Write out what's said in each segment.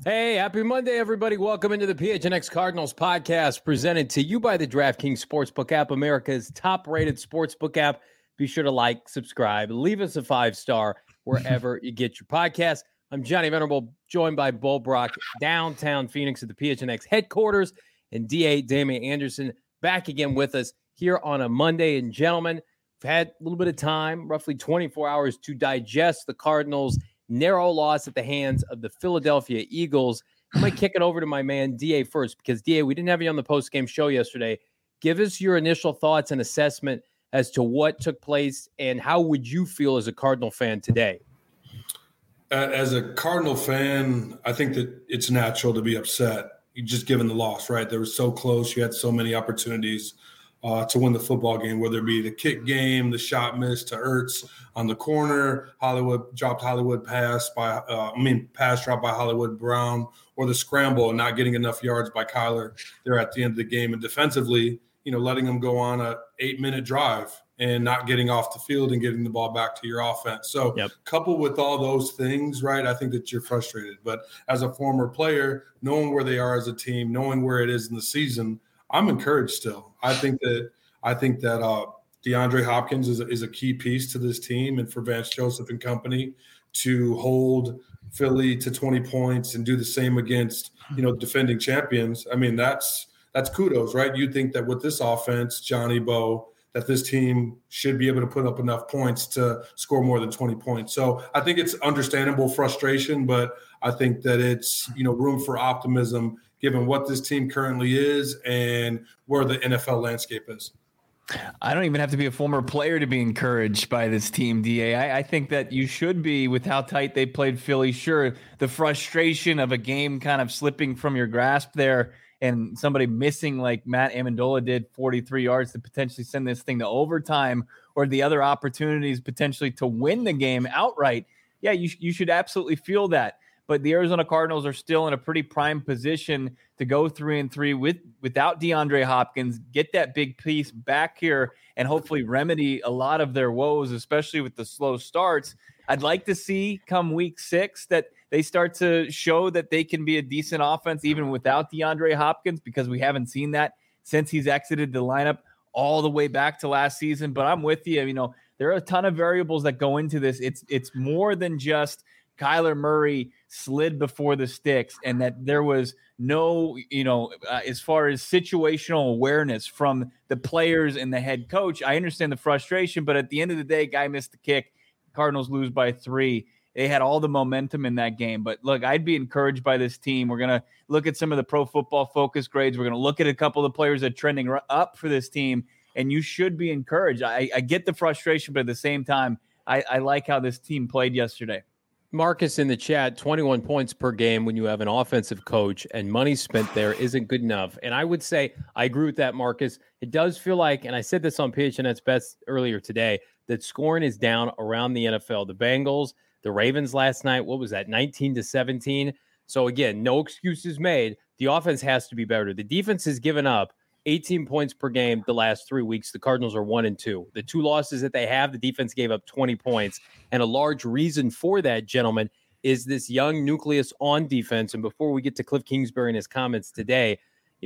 Hey, happy Monday, everybody. Welcome into the PHNX Cardinals podcast presented to you by the DraftKings Sportsbook app, America's top-rated sportsbook app. Be sure to like, subscribe, leave us a 5-star wherever you get your podcast. I'm Johnny Venerable, joined by Bull Brock, downtown Phoenix at the PHNX headquarters, and DA Damian Anderson back again with us here on a Monday. And gentlemen, we've had a little bit of time, roughly 24 hours, to digest the Cardinals' narrow loss at the hands of the Philadelphia Eagles. I'm going to kick it over to my man, DA, first, because, DA, we didn't have you on the post-game show yesterday. Give us your initial thoughts and assessment as to what took place, and how would you feel as a Cardinal fan today? As a Cardinal fan, I think that it's natural to be upset. You just given the loss, right? They were so close. You had so many opportunities to win the football game, whether it be the kick game, the shot miss to Ertz on the corner, Hollywood pass drop by Hollywood Brown, or the scramble and not getting enough yards by Kyler there at the end of the game. And defensively, letting them go on a 8-minute drive and not getting off the field and getting the ball back to your offense. So coupled with all those things, right, I think that you're frustrated. But as a former player, knowing where they are as a team, knowing where it is in the season, I'm encouraged still. I think that DeAndre Hopkins is a key piece to this team, and for Vance Joseph and company to hold Philly to 20 points and do the same against, defending champions. I mean, that's kudos, right? You'd think that with this offense, Johnny Bo, that this team should be able to put up enough points to score more than 20 points. So I think it's understandable frustration, but I think that it's, room for optimism given what this team currently is and where the NFL landscape is. I don't even have to be a former player to be encouraged by this team, DA. I think that you should be, with how tight they played Philly. Sure, the frustration of a game kind of slipping from your grasp there and somebody missing like Matt Amendola did 43 yards to potentially send this thing to overtime, or the other opportunities potentially to win the game outright. Yeah, you should absolutely feel that. But the Arizona Cardinals are still in a pretty prime position to go 3-3 without DeAndre Hopkins, get that big piece back here, and hopefully remedy a lot of their woes, especially with the slow starts. I'd like to see come week 6 that they start to show that they can be a decent offense even without DeAndre Hopkins, because we haven't seen that since he's exited the lineup all the way back to last season. But I'm with you. There are a ton of variables that go into this. It's more than just Kyler Murray slid before the sticks, and that there was no, as far as situational awareness from the players and the head coach. I understand the frustration, but at the end of the day, guy missed the kick. Cardinals lose by 3. They had all the momentum in that game. But look, I'd be encouraged by this team. We're going to look at some of the Pro Football Focus grades. We're going to look at a couple of the players that are trending up for this team, and you should be encouraged. I get the frustration, but at the same time, I like how this team played yesterday. Marcus in the chat, 21 points per game when you have an offensive coach and money spent there isn't good enough. And I would say I agree with that, Marcus. It does feel like, and I said this on PHNX Best earlier today, that scoring is down around the NFL. The Bengals, the Ravens last night, what was that, 19-17? So again, no excuses made. The offense has to be better. The defense has given up 18 points per game the last 3 weeks. The Cardinals are 1-2. The 2 losses that they have, the defense gave up 20 points. And a large reason for that, gentlemen, is this young nucleus on defense. And before we get to Cliff Kingsbury and his comments today,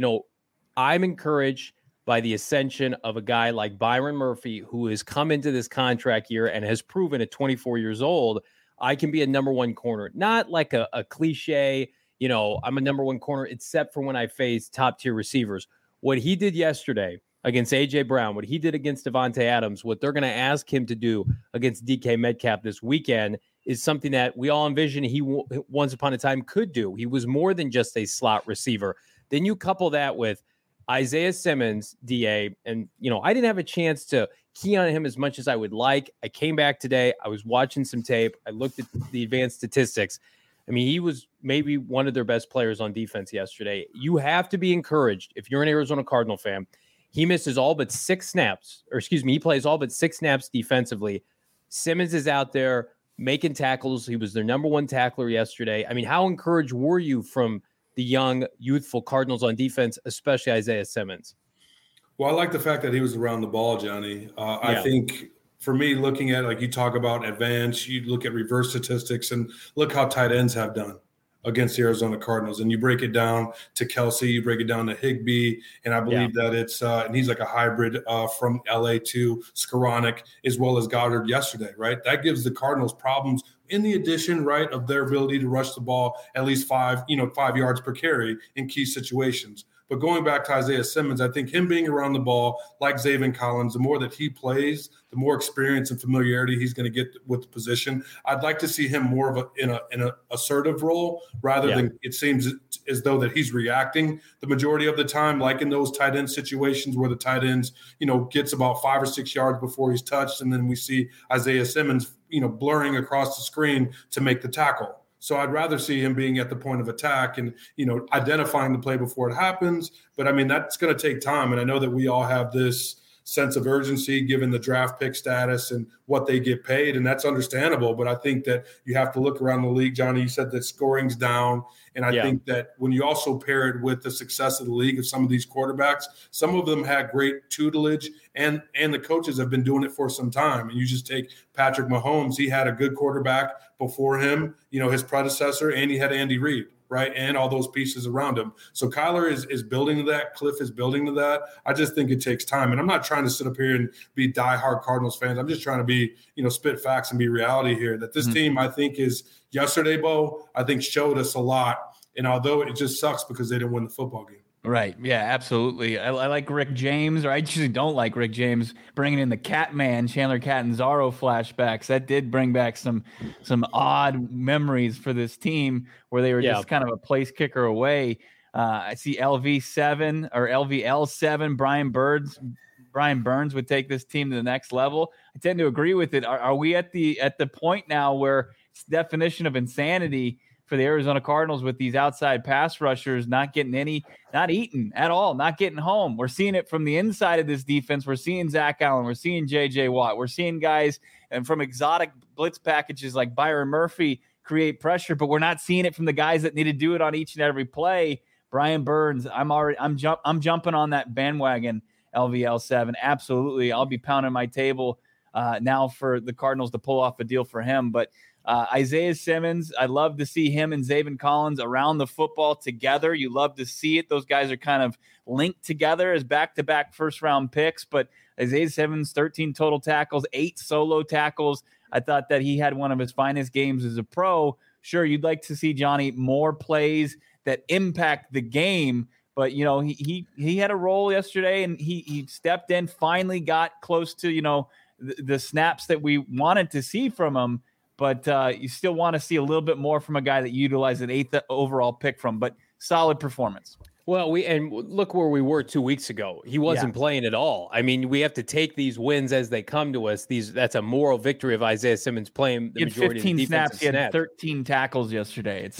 I'm encouraged by the ascension of a guy like Byron Murphy, who has come into this contract year and has proven at 24 years old, I can be a number one corner. Not like a cliche, I'm a number one corner, except for when I face top tier receivers. What he did yesterday against A.J. Brown, what he did against Devontae Adams, what they're going to ask him to do against DK Metcalf this weekend is something that we all envisioned he once upon a time could do. He was more than just a slot receiver. Then you couple that with Isaiah Simmons, DA, and, I didn't have a chance to key on him as much as I would like. I came back today. I was watching some tape. I looked at the advanced statistics. I mean, he was maybe one of their best players on defense yesterday. You have to be encouraged if you're an Arizona Cardinal fan. He misses all but 6 snaps, he plays all but 6 snaps defensively. Simmons is out there making tackles. He was their number one tackler yesterday. I mean, how encouraged were you from the young, youthful Cardinals on defense, especially Isaiah Simmons? Well, I like the fact that he was around the ball, Johnny. I think for me, looking at, like you talk about advance, you look at reverse statistics and look how tight ends have done. against the Arizona Cardinals. And you break it down to Kelsey, you break it down to Higbee, and I believe that it's and he's like a hybrid from LA to Skoranek as well as Goddard yesterday, right? That gives the Cardinals problems in the addition, right, of their ability to rush the ball at least 5 yards per carry in key situations. But going back to Isaiah Simmons, I think him being around the ball, like Zaven Collins, the more that he plays, the more experience and familiarity he's going to get with the position. I'd like to see him more of in an assertive role rather than it seems as though that he's reacting the majority of the time, like in those tight end situations where the tight ends, gets about 5 or 6 yards before he's touched, and then we see Isaiah Simmons, blurring across the screen to make the tackle. So I'd rather see him being at the point of attack and, identifying the play before it happens. But, I mean, that's going to take time. And I know that we all have this sense of urgency given the draft pick status and what they get paid, and that's understandable. But I think that you have to look around the league. Johnny, you said that scoring's down. And I think that when you also pair it with the success of the league of some of these quarterbacks, some of them had great tutelage and the coaches have been doing it for some time. And you just take Patrick Mahomes. He had a good quarterback before him, his predecessor, and he had Andy Reid, right? And all those pieces around him. So Kyler is building to that. Cliff is building to that. I just think it takes time. And I'm not trying to sit up here and be diehard Cardinals fans. I'm just trying to be, spit facts and be reality here. That this team, I think, is yesterday, Bo, I think showed us a lot. And although it just sucks because they didn't win the football game. Right. Yeah, absolutely. I like Rick James, or I usually don't like Rick James bringing in the Catman, Chandler Catanzaro flashbacks. That did bring back some odd memories for this team where they were just kind of a place kicker away. I see LV7 or LVL7, Brian Burns would take this team to the next level. I tend to agree with it. Are we at the point now where it's the definition of insanity for the Arizona Cardinals with these outside pass rushers not eating at all, not getting home? We're seeing it from the inside of this defense. We're seeing Zach Allen. We're seeing J.J. Watt. We're seeing guys and from exotic blitz packages like Byron Murphy create pressure, but we're not seeing it from the guys that need to do it on each and every play. Brian Burns, I'm jumping on that bandwagon, LVL7. Absolutely. I'll be pounding my table now for the Cardinals to pull off a deal for him. But Isaiah Simmons, I love to see him and Zaven Collins around the football together. You love to see it. Those guys are kind of linked together as back-to-back first-round picks. But Isaiah Simmons, 13 total tackles, 8 solo tackles. I thought that he had one of his finest games as a pro. Sure, you'd like to see, Johnny, more plays that impact the game. But, he had a role yesterday, and he stepped in, finally got close to, the snaps that we wanted to see from him. But you still want to see a little bit more from a guy that utilized an 8th overall pick from, but solid performance. Well, and look where we were 2 weeks ago. He wasn't playing at all. I mean, we have to take these wins as they come to us. That's a moral victory of Isaiah Simmons playing the majority of the defensive snaps. He had 13 tackles yesterday.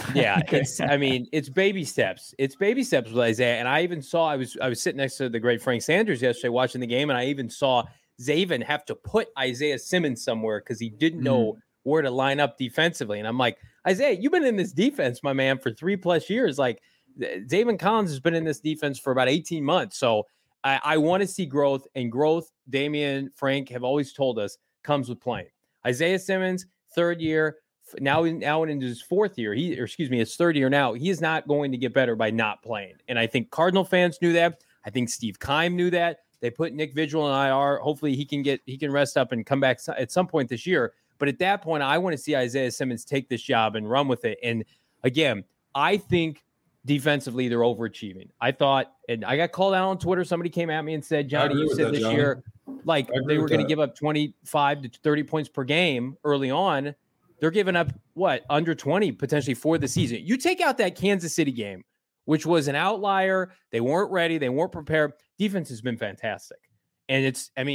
It's baby steps. It's baby steps with Isaiah. And I even saw, I was sitting next to the great Frank Sanders yesterday watching the game, and I even saw Zaven have to put Isaiah Simmons somewhere because he didn't know where to line up defensively. And I'm like, Isaiah, you've been in this defense, my man, for 3+ years. Like, Zaven Collins has been in this defense for about 18 months. So I want to see growth, and growth, Damian, Frank have always told us, comes with playing. Isaiah Simmons, 3rd year, now into his 4th year, his 3rd year now, he is not going to get better by not playing. And I think Cardinal fans knew that. I think Steve Keim knew that. They put Nick Vigil in IR. Hopefully he can rest up and come back at some point this year. But at that point, I want to see Isaiah Simmons take this job and run with it. And again, I think defensively they're overachieving. I thought, and I got called out on Twitter. Somebody came at me and said, Johnny, you said this year, like they were going to give up 25 to 30 points per game early on. They're giving up under 20 potentially for the season. You take out that Kansas City game, which was an outlier. They weren't ready. They weren't prepared. Defense has been fantastic. And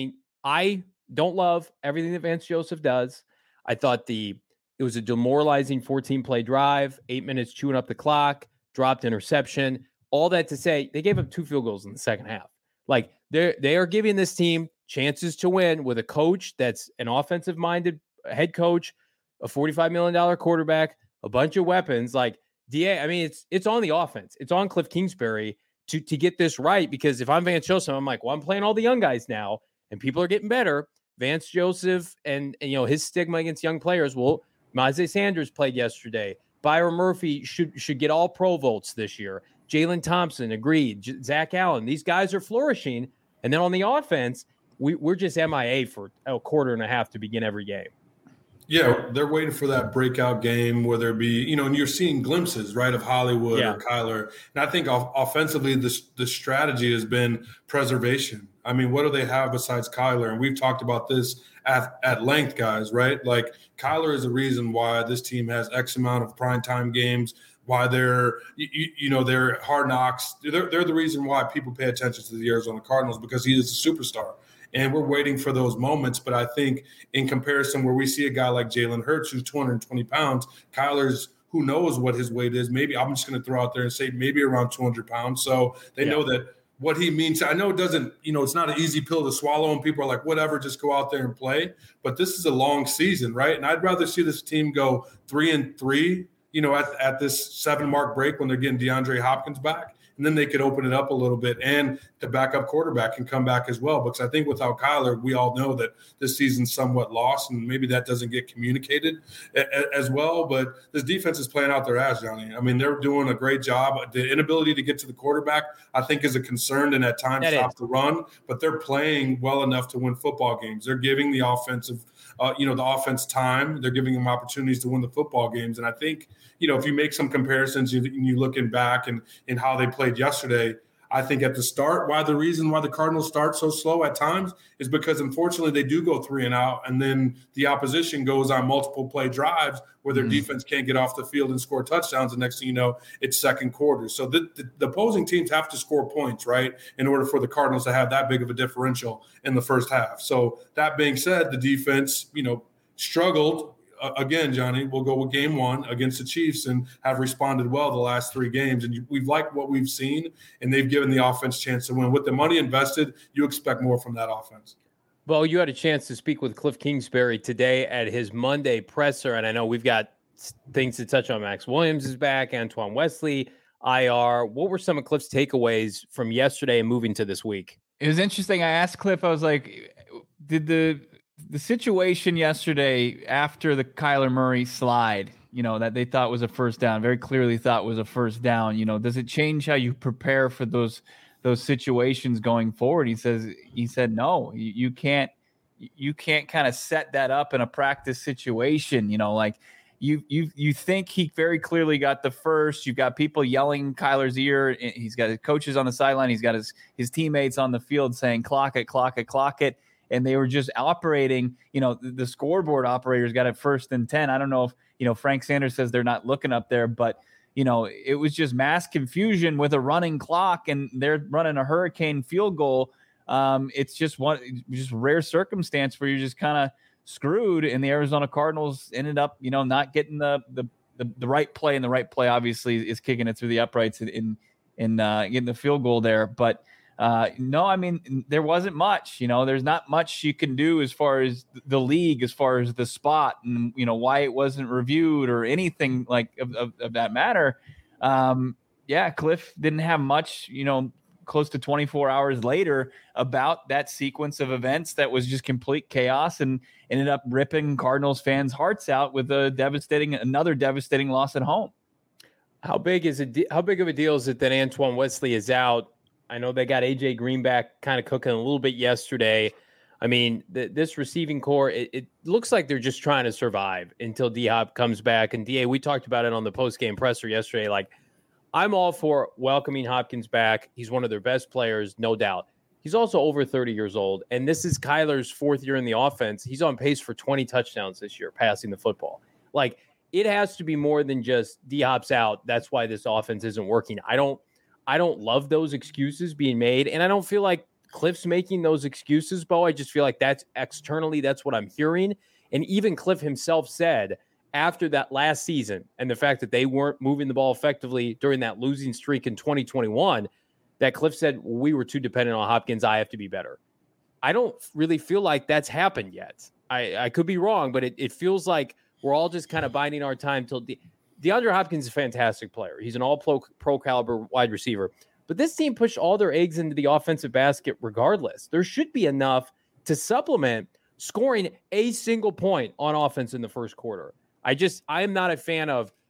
I don't love everything that Vance Joseph does. I thought it was a demoralizing 14-play drive, 8 minutes chewing up the clock, dropped interception. All that to say, they gave up 2 field goals in the second half. Like, they are giving this team chances to win with a coach that's an offensive-minded head coach, a $45 million quarterback, a bunch of weapons. Like, it's on the offense. It's on Cliff Kingsbury to get this right, because if I'm Vance Joseph, I'm like, well, I'm playing all the young guys now, and people are getting better. Vance Joseph and his stigma against young players. Well, Isaiah Sanders played yesterday. Byron Murphy should get all pro votes this year. Jalen Thompson, agreed. Zach Allen, these guys are flourishing. And then on the offense, we're just MIA for a quarter and a half to begin every game. Yeah, they're waiting for that breakout game, whether it be, and you're seeing glimpses, right, of Hollywood or Kyler. And I think offensively, the strategy has been preservation. I mean, what do they have besides Kyler? And we've talked about this at length, guys, right? Like, Kyler is the reason why this team has X amount of primetime games, why they're, they're Hard Knocks. They're the reason why people pay attention to the Arizona Cardinals, because he is a superstar. And we're waiting for those moments. But I think in comparison, where we see a guy like Jalen Hurts, who's 220 pounds, Kyler's, who knows what his weight is. Maybe I'm just going to throw out there and say maybe around 200 pounds. So they know that what he means. I know it doesn't, it's not an easy pill to swallow, and people are like, whatever, just go out there and play. But this is a long season, right? And I'd rather see this team go 3-3, at this 7-mark break when they're getting DeAndre Hopkins back. And then they could open it up a little bit, and the backup quarterback can come back as well. Because I think without Kyler, we all know that this season's somewhat lost, and maybe that doesn't get communicated as well. But this defense is playing out their ass, Johnny. I mean, they're doing a great job. The inability to get to the quarterback, I think, is a concern, and at times stop the run. But they're playing well enough to win football games. They're giving the offensive the offense time. They're giving them opportunities to win the football games. And I think, if you make some comparisons, you looking back and how they played yesterday, I think at the start, the reason why the Cardinals start so slow at times is because, unfortunately, they do go 3 and out, and then the opposition goes on multiple play drives where their defense can't get off the field and score touchdowns. The next thing you know, it's second quarter. So the opposing teams have to score points, right, in order for the Cardinals to have that big of a differential in the first half. So that being said, the defense, struggled. Again, Johnny, we'll go with game 1 against the Chiefs and have responded well the last 3 games. And we've liked what we've seen, and they've given the offense a chance to win. With the money invested, you expect more from that offense. Well, you had a chance to speak with Cliff Kingsbury today at his Monday presser, and I know we've got things to touch on. Max Williams is back, Antoine Wesley, IR. What were some of Cliff's takeaways from yesterday and moving to this week? It was interesting. I asked Cliff, I was like, did the situation yesterday after the Kyler Murray slide, that they thought was a first down, very clearly thought was a first down, does it change how you prepare for those situations going forward? He said, no, you can't kind of set that up in a practice situation. You think he very clearly got the first. You've got people yelling Kyler's ear. He's got his coaches on the sideline. He's got his teammates on the field saying, clock it, clock it, clock it. And they were just operating, the scoreboard operators got it 1st and 10. I don't know if, Frank Sanders says they're not looking up there, but, it was just mass confusion with a running clock, and they're running a hurricane field goal. It's just rare circumstance where you're just kind of screwed, and the Arizona Cardinals ended up, not getting the right play, and the right play obviously is kicking it through the uprights in getting the field goal there. But no, I mean, there wasn't much, there's not much you can do as far as the league, as far as the spot and, why it wasn't reviewed or anything like of that matter. Cliff didn't have much, close to 24 hours later about that sequence of events that was just complete chaos and ended up ripping Cardinals fans' hearts out with another devastating loss at home. How big of a deal is it that Antoine Wesley is out? I know they got AJ Green back kind of cooking a little bit yesterday. I mean, this receiving core, it looks like they're just trying to survive until D-Hop comes back. And DA, we talked about it on the post-game presser yesterday. Like, I'm all for welcoming Hopkins back. He's one of their best players, no doubt. He's also over 30 years old, and this is Kyler's 4th year in the offense. He's on pace for 20 touchdowns this year, passing the football. Like, it has to be more than just D-Hop's out. That's why this offense isn't working. I don't love those excuses being made, and I don't feel like Cliff's making those excuses, Bo. I just feel like that's what I'm hearing. And even Cliff himself said after that last season and the fact that they weren't moving the ball effectively during that losing streak in 2021, that Cliff said, we were too dependent on Hopkins. I have to be better. I don't really feel like that's happened yet. I could be wrong, but it feels like we're all just kind of biding our time till DeAndre Hopkins is a fantastic player. He's an all-pro caliber wide receiver. But this team pushed all their eggs into the offensive basket regardless. There should be enough to supplement scoring a single point on offense in the first quarter. I am not a fan of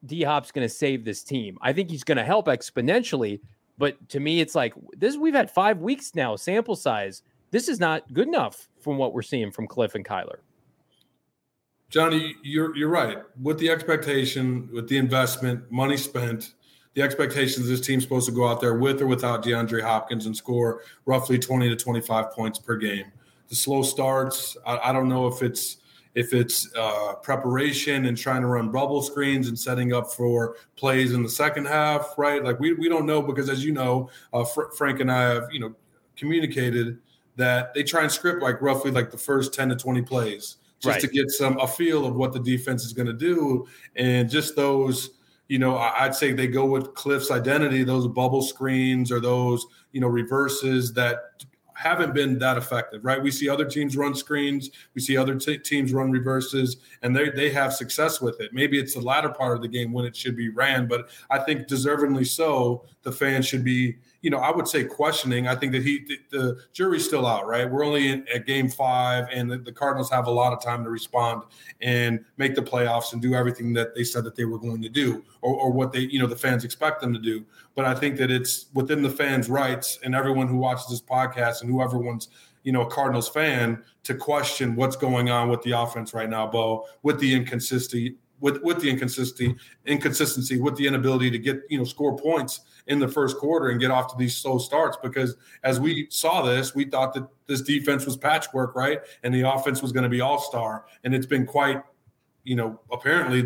D-Hop's going to save this team. I think he's going to help exponentially. But to me, it's like this. We've had 5 weeks now, sample size. This is not good enough from what we're seeing from Cliff and Kyler. Johnny, you're right. With the expectation, with the investment, money spent, the expectations this team's supposed to go out there with or without DeAndre Hopkins and score roughly 20 to 25 points per game. The slow starts, I don't know if it's preparation and trying to run bubble screens and setting up for plays in the second half, right? Like we don't know because, as you know, Frank and I have communicated that they try and script like roughly like the first 10 to 20 plays just to get a feel of what the defense is going to do, and just those. I'd say they go with Cliff's identity, those bubble screens or those reverses that haven't been that effective, right? We see other teams run screens. We see other teams run reverses, and they have success with it. Maybe it's the latter part of the game when it should be ran, but I think deservedly so, the fans should be, I would say questioning. I think that the jury's still out, right? We're only at game 5, and the Cardinals have a lot of time to respond and make the playoffs and do everything that they said that they were going to do, or what they, the fans expect them to do. But I think that it's within the fans' rights and everyone who watches this podcast and whoever one's, a Cardinals fan, to question what's going on with the offense right now, Bo, with the inconsistency, with the inconsistency, with the inability to get, score points in the first quarter and get off to these slow starts. Because as we saw this, we thought that this defense was patchwork, right? And the offense was going to be all-star. And it's been quite, apparently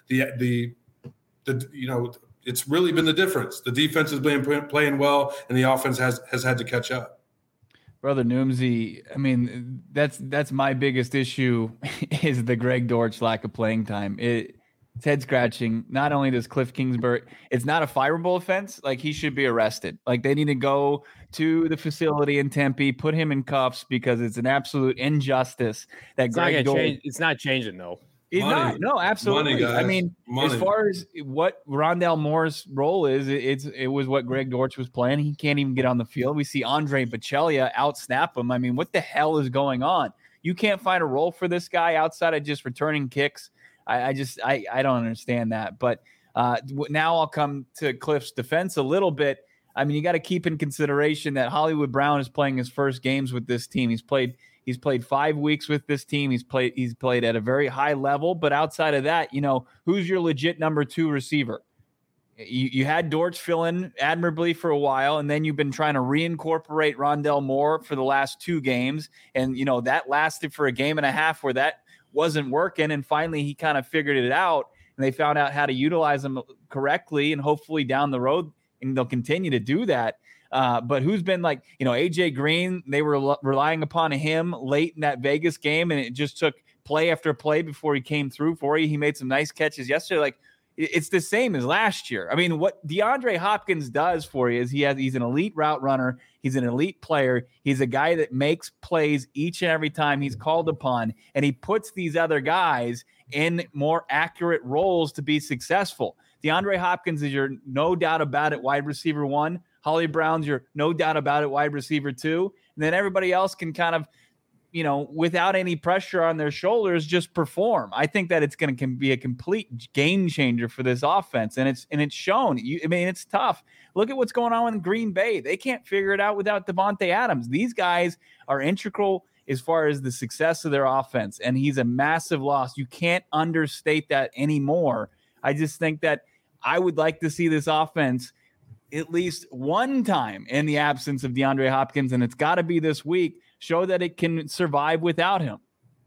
it's really been the difference. The defense has been playing well, and the offense has had to catch up. Brother Noomsy, I mean, that's my biggest issue is the Greg Dortch lack of playing time. It's head scratching. Not only does Cliff Kingsbury, it's not a fireable offense. Like, he should be arrested. Like, they need to go to the facility in Tempe, put him in cuffs, because it's an absolute injustice that Greg Dortch. It's not changing though. He's not. No, absolutely. Money, I mean, as far as what Rondale Moore's role is, it was what Greg Dortch was playing. He can't even get on the field. We see Andre Baccellia out-snap him. I mean, what the hell is going on? You can't find a role for this guy outside of just returning kicks. I don't understand that. But now I'll come to Cliff's defense a little bit. I mean, you got to keep in consideration that Hollywood Brown is playing his first games with this team. He's played 5 weeks with this team. He's played at a very high level, but outside of that, who's your legit number 2 receiver? You had Dortch fill in admirably for a while, and then you've been trying to reincorporate Rondale Moore for the last 2 games, and that lasted for a game and a half where that wasn't working, and finally he kind of figured it out, and they found out how to utilize him correctly, and hopefully down the road, and they'll continue to do that. But who's been like, AJ Green, they were relying upon him late in that Vegas game, and it just took play after play before he came through for you. He made some nice catches yesterday. Like, it's the same as last year. I mean, what DeAndre Hopkins does for you is he's an elite route runner. He's an elite player. He's a guy that makes plays each and every time he's called upon, and he puts these other guys in more accurate roles to be successful. DeAndre Hopkins is your no doubt about it wide receiver 1. Holly Brown's your no doubt about it wide receiver 2. And then everybody else can kind of, without any pressure on their shoulders, just perform. I think that it's going to be a complete game changer for this offense. And it's shown. It's tough. Look at what's going on in Green Bay. They can't figure it out without Devontae Adams. These guys are integral as far as the success of their offense. And he's a massive loss. You can't understate that anymore. I just think that I would like to see this offense at least one time in the absence of DeAndre Hopkins, and it's got to be this week, show that it can survive without him.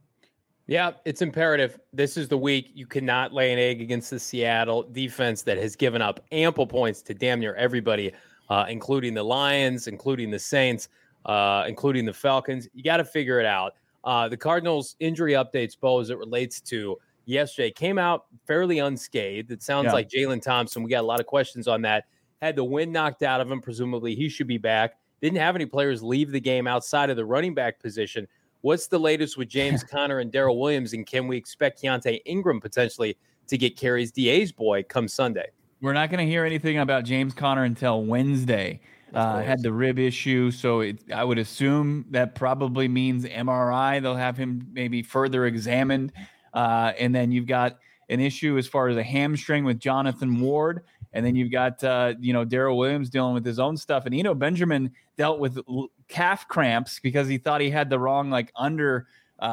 Yeah, it's imperative. This is the week. You cannot lay an egg against the Seattle defense that has given up ample points to damn near everybody, including the Lions, including the Saints, including the Falcons. You got to figure it out. The Cardinals injury updates, Bo, as it relates to yesterday, came out fairly unscathed. It sounds like Jalen Thompson, we got a lot of questions on that, had the wind knocked out of him. Presumably he should be back. Didn't have any players leave the game outside of the running back position. What's the latest with James Conner and Darrell Williams, and can we expect Keontae Ingram potentially to get carries? DA's boy come Sunday. We're not going to hear anything about James Conner until Wednesday. Had the rib issue, so I would assume that probably means MRI. They'll have him maybe further examined. And then you've got an issue as far as a hamstring with Jonathan Ward. And then you've got, Darrell Williams dealing with his own stuff. And Eno Benjamin dealt with calf cramps because he thought he had the wrong, under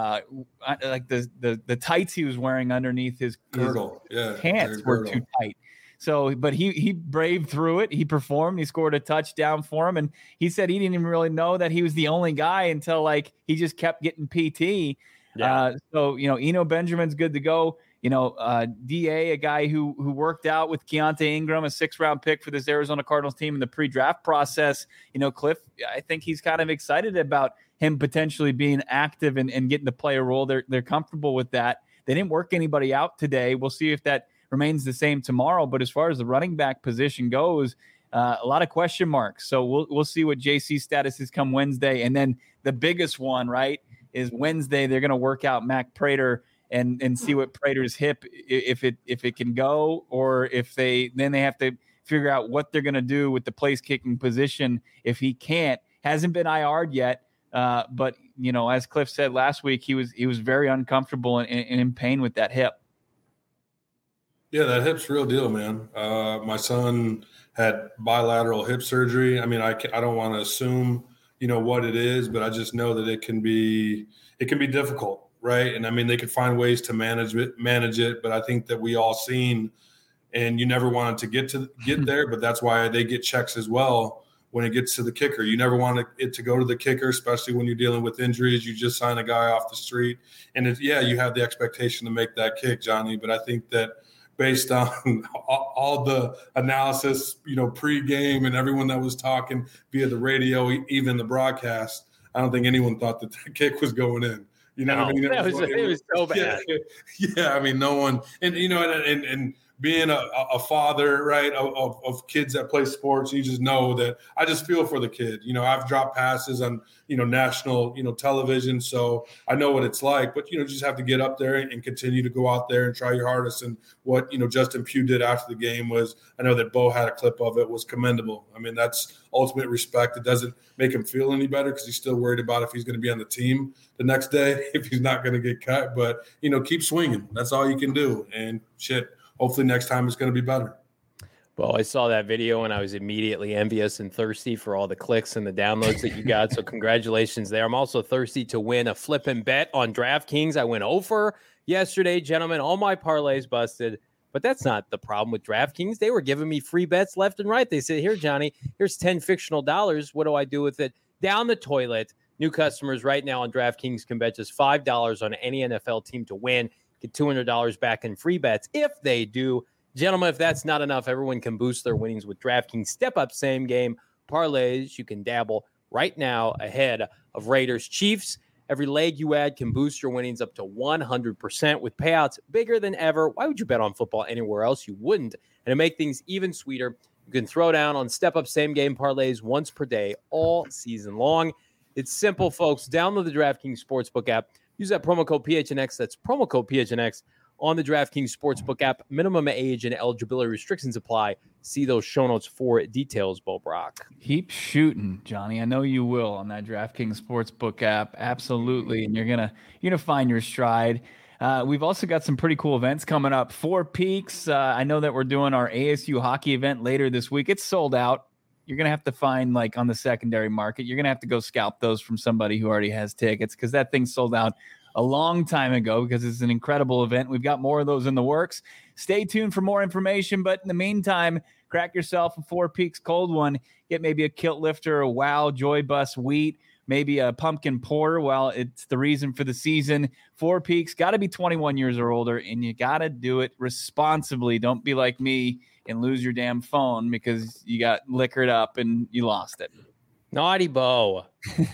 the tights he was wearing underneath his girdle. Pants were too tight. So, but he braved through it. He performed. He scored a touchdown for him. And he said he didn't even really know that he was the only guy until he just kept getting PT. Yeah. Eno Benjamin's good to go. DA, a guy who worked out with Keontae Ingram, a 6th-round pick for this Arizona Cardinals team in the pre-draft process. Cliff, I think he's kind of excited about him potentially being active and getting to play a role. They're comfortable with that. They didn't work anybody out today. We'll see if that remains the same tomorrow. But as far as the running back position goes, a lot of question marks. So we'll see what JC's status is come Wednesday. And then the biggest one, right, is Wednesday. They're going to work out Mac Prater and see what Prater's hip, if it can go, or if they have to figure out what they're going to do with the place kicking position if he can't. Hasn't been IR'd yet, but as Cliff said last week, he was very uncomfortable and in pain with that hip. Yeah, that hip's real deal, man. My son had bilateral hip surgery. I mean, I don't want to assume what it is, but I just know that it can be difficult. Right. And I mean, they could find ways to manage it. But I think that we all seen, and you never wanted to get there, but that's why they get checks as well when it gets to the kicker. You never want it to go to the kicker, especially when you're dealing with injuries. You just sign a guy off the street. And you have the expectation to make that kick, Johnny. But I think that based on all the analysis, pre-game and everyone that was talking via the radio, even the broadcast, I don't think anyone thought that the kick was going in. What I mean? It was so bad. Yeah, I mean, no one, and and being a father, right, of kids that play sports, you just know that I just feel for the kid. I've dropped passes on national television, so I know what it's like. But you just have to get up there and continue to go out there and try your hardest. And what Justin Pugh did after the game was, I know that Bo had a clip of it, was commendable. I mean, that's ultimate respect. It doesn't make him feel any better because he's still worried about if he's going to be on the team the next day, if he's not going to get cut. But keep swinging. That's all you can do. And shit, hopefully next time it's going to be better. Well, I saw that video and I was immediately envious and thirsty for all the clicks and the downloads that you got. So congratulations there. I'm also thirsty to win a flip and bet on DraftKings. I went over yesterday, gentlemen. All my parlays busted. But that's not the problem with DraftKings. They were giving me free bets left and right. They said, here, Johnny, here's 10 fictional dollars. What do I do with it? Down the toilet. New customers right now on DraftKings can bet just $5 on any NFL team to win. Get $200 back in free bets if they do. Gentlemen, if that's not enough, everyone can boost their winnings with DraftKings step-up same-game parlays. You can dabble right now ahead of Raiders Chiefs. Every leg you add can boost your winnings up to 100% with payouts bigger than ever. Why would you bet on football anywhere else? You wouldn't. And to make things even sweeter, you can throw down on step-up same-game parlays once per day all season long. It's simple, folks. Download the DraftKings Sportsbook app. Use that promo code PHNX. That's promo code PHNX on the DraftKings Sportsbook app. Minimum age and eligibility restrictions apply. See those show notes for details, Bo Brock. Keep shooting, Johnny. I know you will on that DraftKings Sportsbook app. Absolutely. And you're gonna find your stride. We've also got some pretty cool events coming up. Four Peaks. I know that we're doing our ASU hockey event later this week. It's sold out. You're going to have to find, on the secondary market, you're going to have to go scalp those from somebody who already has tickets, because that thing sold out a long time ago, because it's an incredible event. We've got more of those in the works. Stay tuned for more information. But in the meantime, crack yourself a Four Peaks cold one. Get maybe a Kilt Lifter, a Wow, Joy Bus Wheat, maybe a pumpkin porter. Well, it's the reason for the season. Four Peaks, got to be 21 years or older, and you got to do it responsibly. Don't be like me and lose your damn phone because you got liquored up and you lost it. Naughty Bo.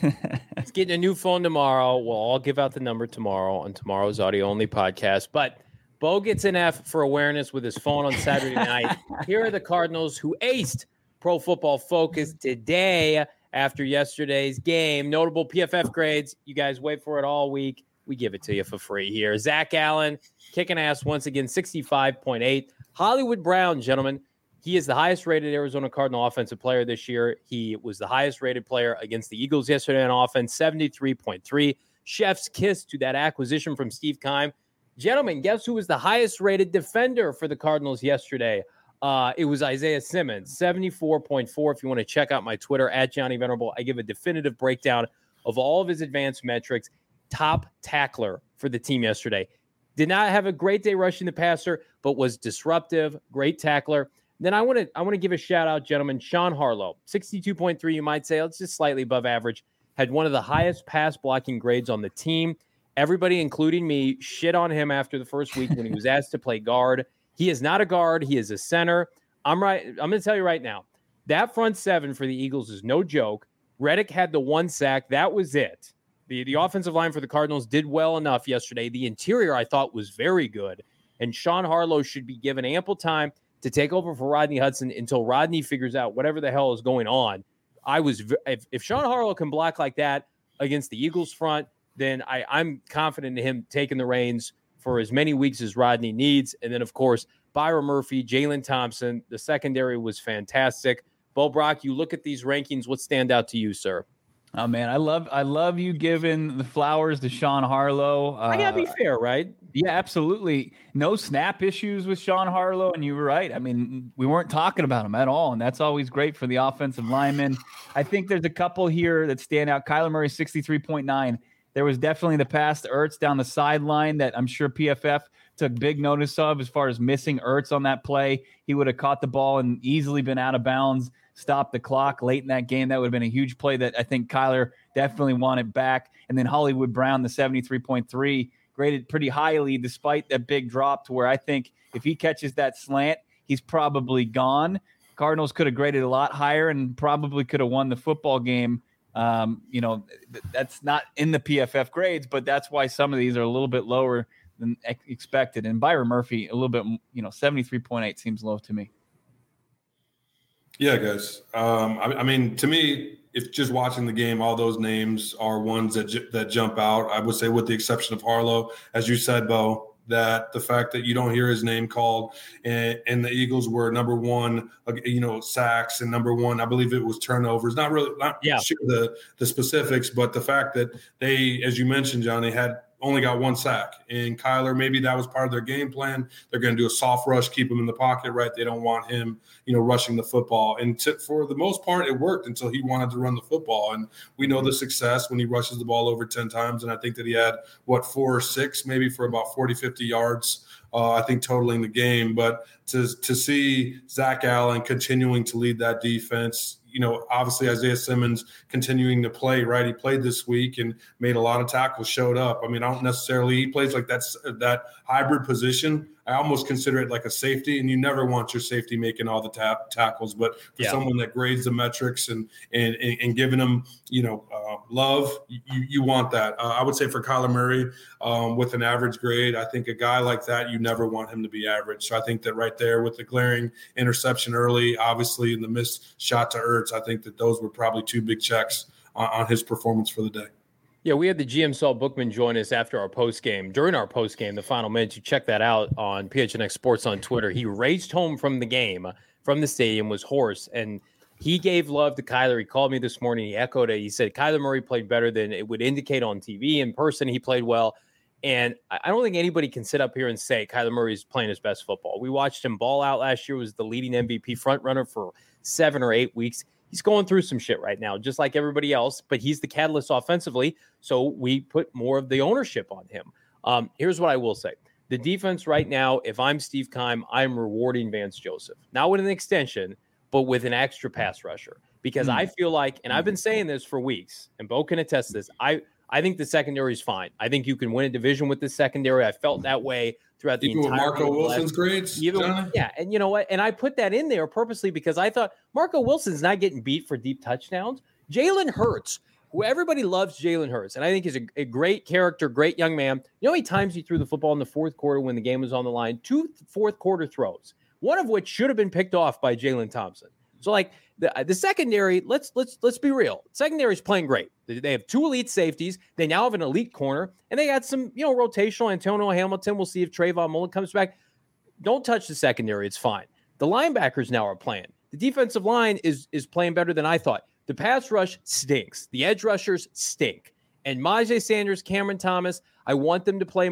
He's getting a new phone tomorrow. We'll all give out the number tomorrow on tomorrow's audio-only podcast. But Bo gets an F for awareness with his phone on Saturday night. Here are the Cardinals who aced Pro Football Focus today after yesterday's game. Notable PFF grades. You guys wait for it all week. We give it to you for free here. Zach Allen kicking ass once again, 65.8. Hollywood Brown, gentlemen, he is the highest-rated Arizona Cardinal offensive player this year. He was the highest-rated player against the Eagles yesterday on offense, 73.3. Chef's kiss to that acquisition from Steve Keim. Gentlemen, guess who was the highest rated defender for the Cardinals yesterday? It was Isaiah Simmons, 74.4. If you want to check out my Twitter, at Johnny Venerable, I give a definitive breakdown of all of his advanced metrics. Top tackler for the team yesterday. Did not have a great day rushing the passer, but was disruptive, great tackler. Then I want to give a shout out, gentlemen. Sean Harlow, 62.3, you might say. It's just slightly above average. Had one of the highest pass blocking grades on the team. Everybody, including me, shit on him after the first week when he was asked to play guard. He is not a guard. He is a center. I'm going to tell you right now, that front seven for the Eagles is no joke. Reddick had the one sack. That was it. The offensive line for the Cardinals did well enough yesterday. The interior, I thought, was very good. And Sean Harlow should be given ample time to take over for Rodney Hudson until Rodney figures out whatever the hell is going on. If Sean Harlow can block like that against the Eagles front, then I'm confident in him taking the reins for as many weeks as Rodney needs. And then, of course, Byron Murphy, Jalen Thompson, the secondary was fantastic. Bo Brock, you look at these rankings. What stand out to you, sir? Oh man, I love you giving the flowers to Sean Harlow. I gotta be fair, right? Yeah, absolutely. No snap issues with Sean Harlow, and you were right. I mean, we weren't talking about him at all, and that's always great for the offensive linemen. I think there's a couple here that stand out. Kyler Murray, 63.9. There was definitely the pass to Ertz down the sideline that I'm sure PFF took big notice of as far as missing Ertz on that play. He would have caught the ball and easily been out of bounds, stopped the clock late in that game. That would have been a huge play that I think Kyler definitely wanted back. And then Hollywood Brown, the 73.3, graded pretty highly despite that big drop, to where I think if he catches that slant, he's probably gone. Cardinals could have graded a lot higher and probably could have won the football game. That's not in the PFF grades, but that's why some of these are a little bit lower than expected. And Byron Murphy, a little bit, 73.8 seems low to me. Yeah, guys. I mean, to me, if just watching the game, all those names are ones that jump out. I would say, with the exception of Harlow, as you said, Bo, that the fact that you don't hear his name called, and the Eagles were number one, sacks, and number one, I believe it was turnovers. Not sure the specifics, but the fact that they, as you mentioned, Johnny, had only got one sack. And Kyler, maybe that was part of their game plan. They're going to do a soft rush, keep him in the pocket, right? They don't want him, rushing the football. And for the most part, it worked until he wanted to run the football. And we know the success when he rushes the ball over 10 times. And I think that he had, 4 or 6, maybe for about 40, 50 yards, I think, totaling the game. But to see Zach Allen continuing to lead that defense, obviously Isaiah Simmons continuing to play, right? He played this week and made a lot of tackles, showed up. I mean, I don't necessarily, he plays like that hybrid position. I almost consider it like a safety, and you never want your safety making all the tackles, but for someone that grades the metrics and giving them, love, you want that. I would say for Kyler Murray, with an average grade, I think a guy like that, you never want him to be average. So I think that right there with the glaring interception early, obviously, and the missed shot to Ertz, I think that those were probably 2 big checks on his performance for the day. Yeah, we had the GM Saul Bookman join us after our postgame. During our postgame, the final minutes, you check that out on PHNX Sports on Twitter. He raced home from the game, from the stadium, was hoarse, and he gave love to Kyler. He called me this morning. He echoed it. He said Kyler Murray played better than it would indicate on TV. In person, he played well. And I don't think anybody can sit up here and say Kyler Murray is playing his best football. We watched him ball out last year, was the leading MVP front runner for 7 or 8 weeks. He's going through some shit right now, just like everybody else, but he's the catalyst offensively, so we put more of the ownership on him. Here's what I will say. The defense right now, if I'm Steve Keim, I'm rewarding Vance Joseph. Not with an extension, but with an extra pass rusher. Because I feel like, and I've been saying this for weeks, and Bo can attest to this, I think the secondary is fine. I think you can win a division with the secondary. I felt that way throughout the entire Marco Wilson's grades? Yeah, and you know what? And I put that in there purposely because I thought Marco Wilson's not getting beat for deep touchdowns. Jalen Hurts, who everybody loves Jalen Hurts, and I think he's a great character, great young man. You know how many times he threw the football in the fourth quarter when the game was on the line? 2 fourth quarter throws, one of which should have been picked off by Jalen Thompson. So like the secondary, let's be real. Secondary is playing great. They have 2 elite safeties. They now have an elite corner, and they got some, rotational. Antonio Hamilton. We'll see if Trayvon Mullen comes back. Don't touch the secondary. It's fine. The linebackers now are playing. The defensive line is playing better than I thought. The pass rush stinks. The edge rushers stink. And Myjai Sanders, Cameron Thomas, I want them to play more.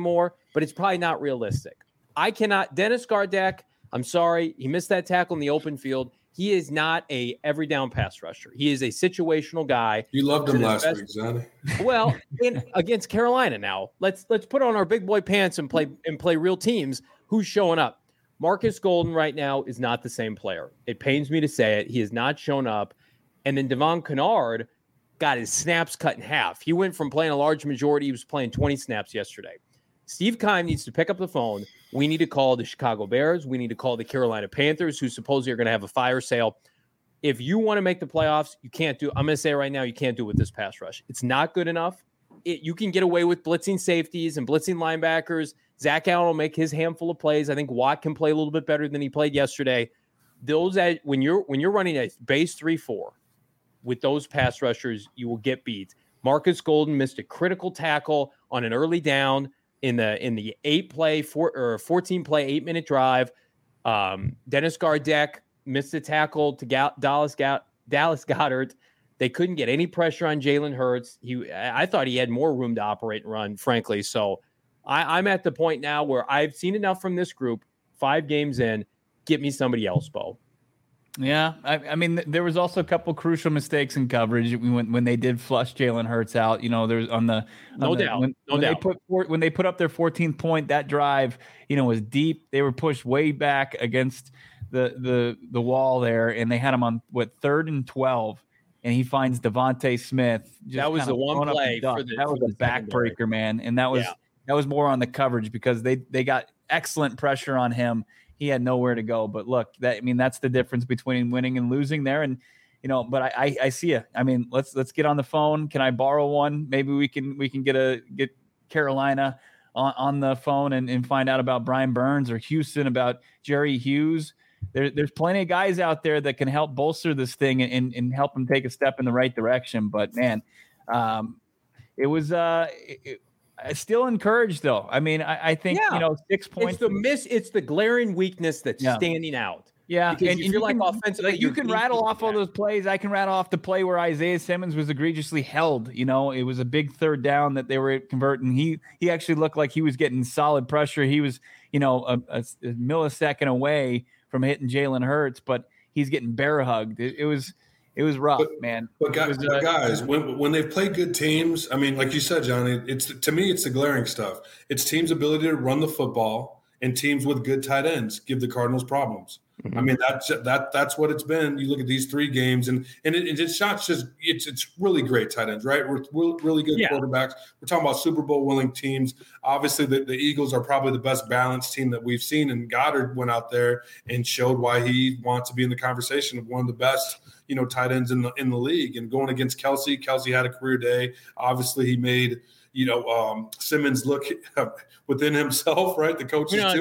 but it's probably not realistic. Dennis Gardeck, I'm sorry, he missed that tackle in the open field. He is not a every down pass rusher. He is a situational guy. You loved him last week, Johnny. Well, against Carolina now. Let's put on our big boy pants and play real teams. Who's showing up? Marcus Golden right now is not the same player. It pains me to say it. He has not shown up. And then Devon Kennard got his snaps cut in half. He went from playing a large majority. He was playing 20 snaps yesterday. Steve Keim needs to pick up the phone. We need to call the Chicago Bears. We need to call the Carolina Panthers, who supposedly are going to have a fire sale. If you want to make the playoffs, you can't do. I'm going to say right now, you can't do it with this pass rush. It's not good enough. You can get away with blitzing safeties and blitzing linebackers. Zach Allen will make his handful of plays. I think Watt can play a little bit better than he played yesterday. When you're running a base 3-4 with those pass rushers, you will get beat. Marcus Golden missed a critical tackle on an early down in the 14-play 8-minute drive. Dennis Gardeck missed a tackle to Dallas Goedert. They couldn't get any pressure on Jalen Hurts. I thought he had more room to operate and run, frankly. So I'm at the point now where I've seen enough from this group. 5 games in, get me somebody else, Bo. Yeah, I mean, there was also a couple crucial mistakes in coverage when they did flush Jalen Hurts out. There's when they put up their 14th point, that drive, was deep. They were pushed way back against the wall there, and they had him on 3rd and 12, and he finds Devontae Smith. That was the one play that was a backbreaker, man, and that was more on the coverage because they got excellent pressure on him. He had nowhere to go. But look, that's the difference between winning and losing there. And, but I see you. I mean, let's get on the phone. Can I borrow one? Maybe we can get Carolina on the phone and find out about Brian Burns, or Houston about Jerry Hughes. There's plenty of guys out there that can help bolster this thing and help them take a step in the right direction. But man, it was, still encouraged though. I mean, I think 6 points. It's the glaring weakness that's standing out. Yeah, and you feel like offensively, you can rattle off all those plays. I can rattle off the play where Isaiah Simmons was egregiously held. It was a big 3rd down that they were converting. He actually looked like he was getting solid pressure. He was a millisecond away from hitting Jalen Hurts, but he's getting bear hugged. It was rough, man. But guys, when they've played good teams, I mean, like you said, Johnny, to me, it's the glaring stuff. It's teams' ability to run the football, and teams with good tight ends give the Cardinals problems. Mm-hmm. I mean, that's what it's been. You look at these 3 games, and it's not just it's really great tight ends, right? We're really good quarterbacks. We're talking about Super Bowl winning teams. Obviously, the Eagles are probably the best balanced team that we've seen, and Goddard went out there and showed why he wants to be in the conversation of one of the best tight ends in the league. And going against Kelsey had a career day. Obviously, he made Simmons look within himself, right? The coaches too.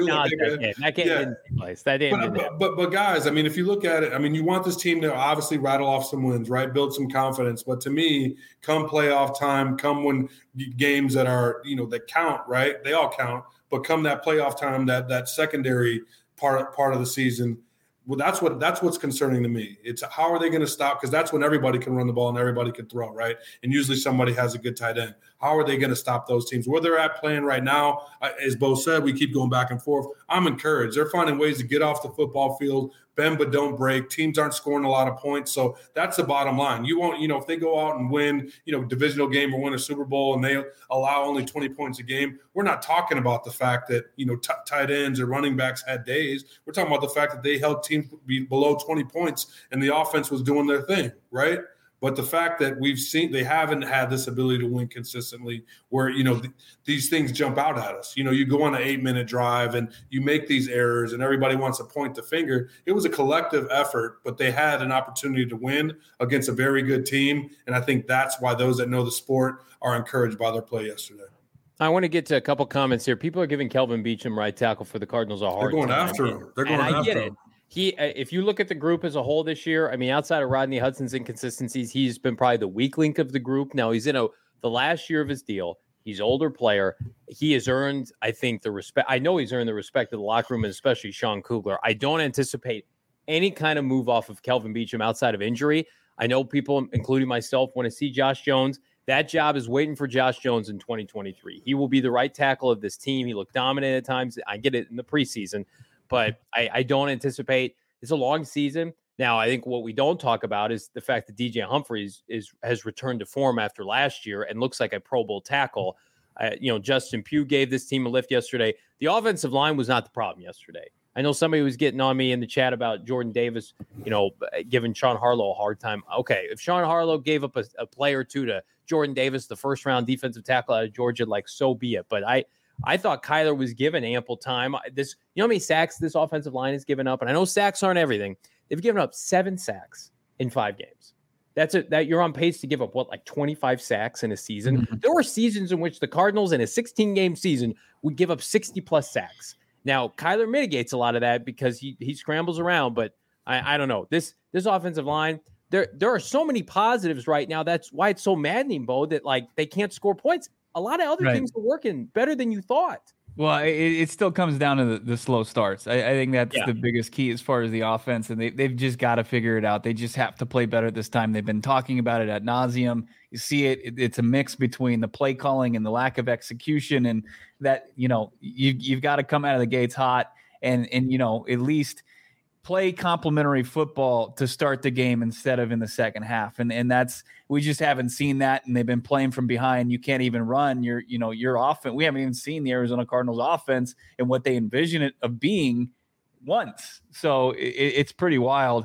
But guys, I mean, if you look at it, I mean, you want this team to obviously rattle off some wins, right? Build some confidence. But to me, come playoff time, come when games that are that count, right? They all count. But come that playoff time, that secondary part of the season. Well, that's what's concerning to me. It's how are they going to stop? Because that's when everybody can run the ball and everybody can throw, right? And usually somebody has a good tight end. How are they going to stop those teams? Where they're at playing right now, as Bo said, we keep going back and forth. I'm encouraged. They're finding ways to get off the football field, bend but don't break. Teams aren't scoring a lot of points. So that's the bottom line. You won't, if they go out and win, divisional game or win a Super Bowl and they allow only 20 points a game, we're not talking about the fact that, tight ends or running backs had days. We're talking about the fact that they held teams below 20 points and the offense was doing their thing, right? But the fact that we've seen they haven't had this ability to win consistently where, these things jump out at us. You go on an 8-minute drive and you make these errors and everybody wants to point the finger. It was a collective effort, but they had an opportunity to win against a very good team. And I think that's why those that know the sport are encouraged by their play yesterday. I want to get to a couple comments here. People are giving Kelvin Beachum, right tackle for the Cardinals, a hard time. They're going after him. If you look at the group as a whole this year, I mean, outside of Rodney Hudson's inconsistencies, he's been probably the weak link of the group. Now he's in the last year of his deal. He's an older player. He has earned, I think, the respect. I know he's earned the respect of the locker room, and especially Sean Kugler. I don't anticipate any kind of move off of Kelvin Beachum outside of injury. I know people, including myself, want to see Josh Jones. That job is waiting for Josh Jones in 2023. He will be the right tackle of this team. He looked dominant at times. I get it in the preseason, but I don't anticipate it's a long season. Now, I think what we don't talk about is the fact that DJ Humphries has returned to form after last year and looks like a Pro Bowl tackle. Justin Pugh gave this team a lift yesterday. The offensive line was not the problem yesterday. I know somebody was getting on me in the chat about Jordan Davis, giving Sean Harlow a hard time. Okay, if Sean Harlow gave up a play or two to Jordan Davis, the first-round defensive tackle out of Georgia, so be it. But I thought Kyler was given ample time. You know how many sacks this offensive line has given up? And I know sacks aren't everything. They've given up 7 sacks in 5 games. That you're on pace to give up 25 sacks in a season. Mm-hmm. There were seasons in which the Cardinals in a 16-game season would give up 60-plus sacks. Now, Kyler mitigates a lot of that because he scrambles around, but I don't know. This offensive line, there are so many positives right now. That's why it's so maddening, Bo, that they can't score points. A lot of other things are working better than you thought. Well, it still comes down to the slow starts. I think that's the biggest key as far as the offense, and they've just got to figure it out. They just have to play better this time. They've been talking about it ad nauseum. You see it's a mix between the play calling and the lack of execution, and that you've got to come out of the gates hot and at least play complementary football to start the game instead of in the second half. And that's, we just haven't seen that. And they've been playing from behind. You can't even run your offense. We haven't even seen the Arizona Cardinals offense and what they envision it of being once. So it's pretty wild.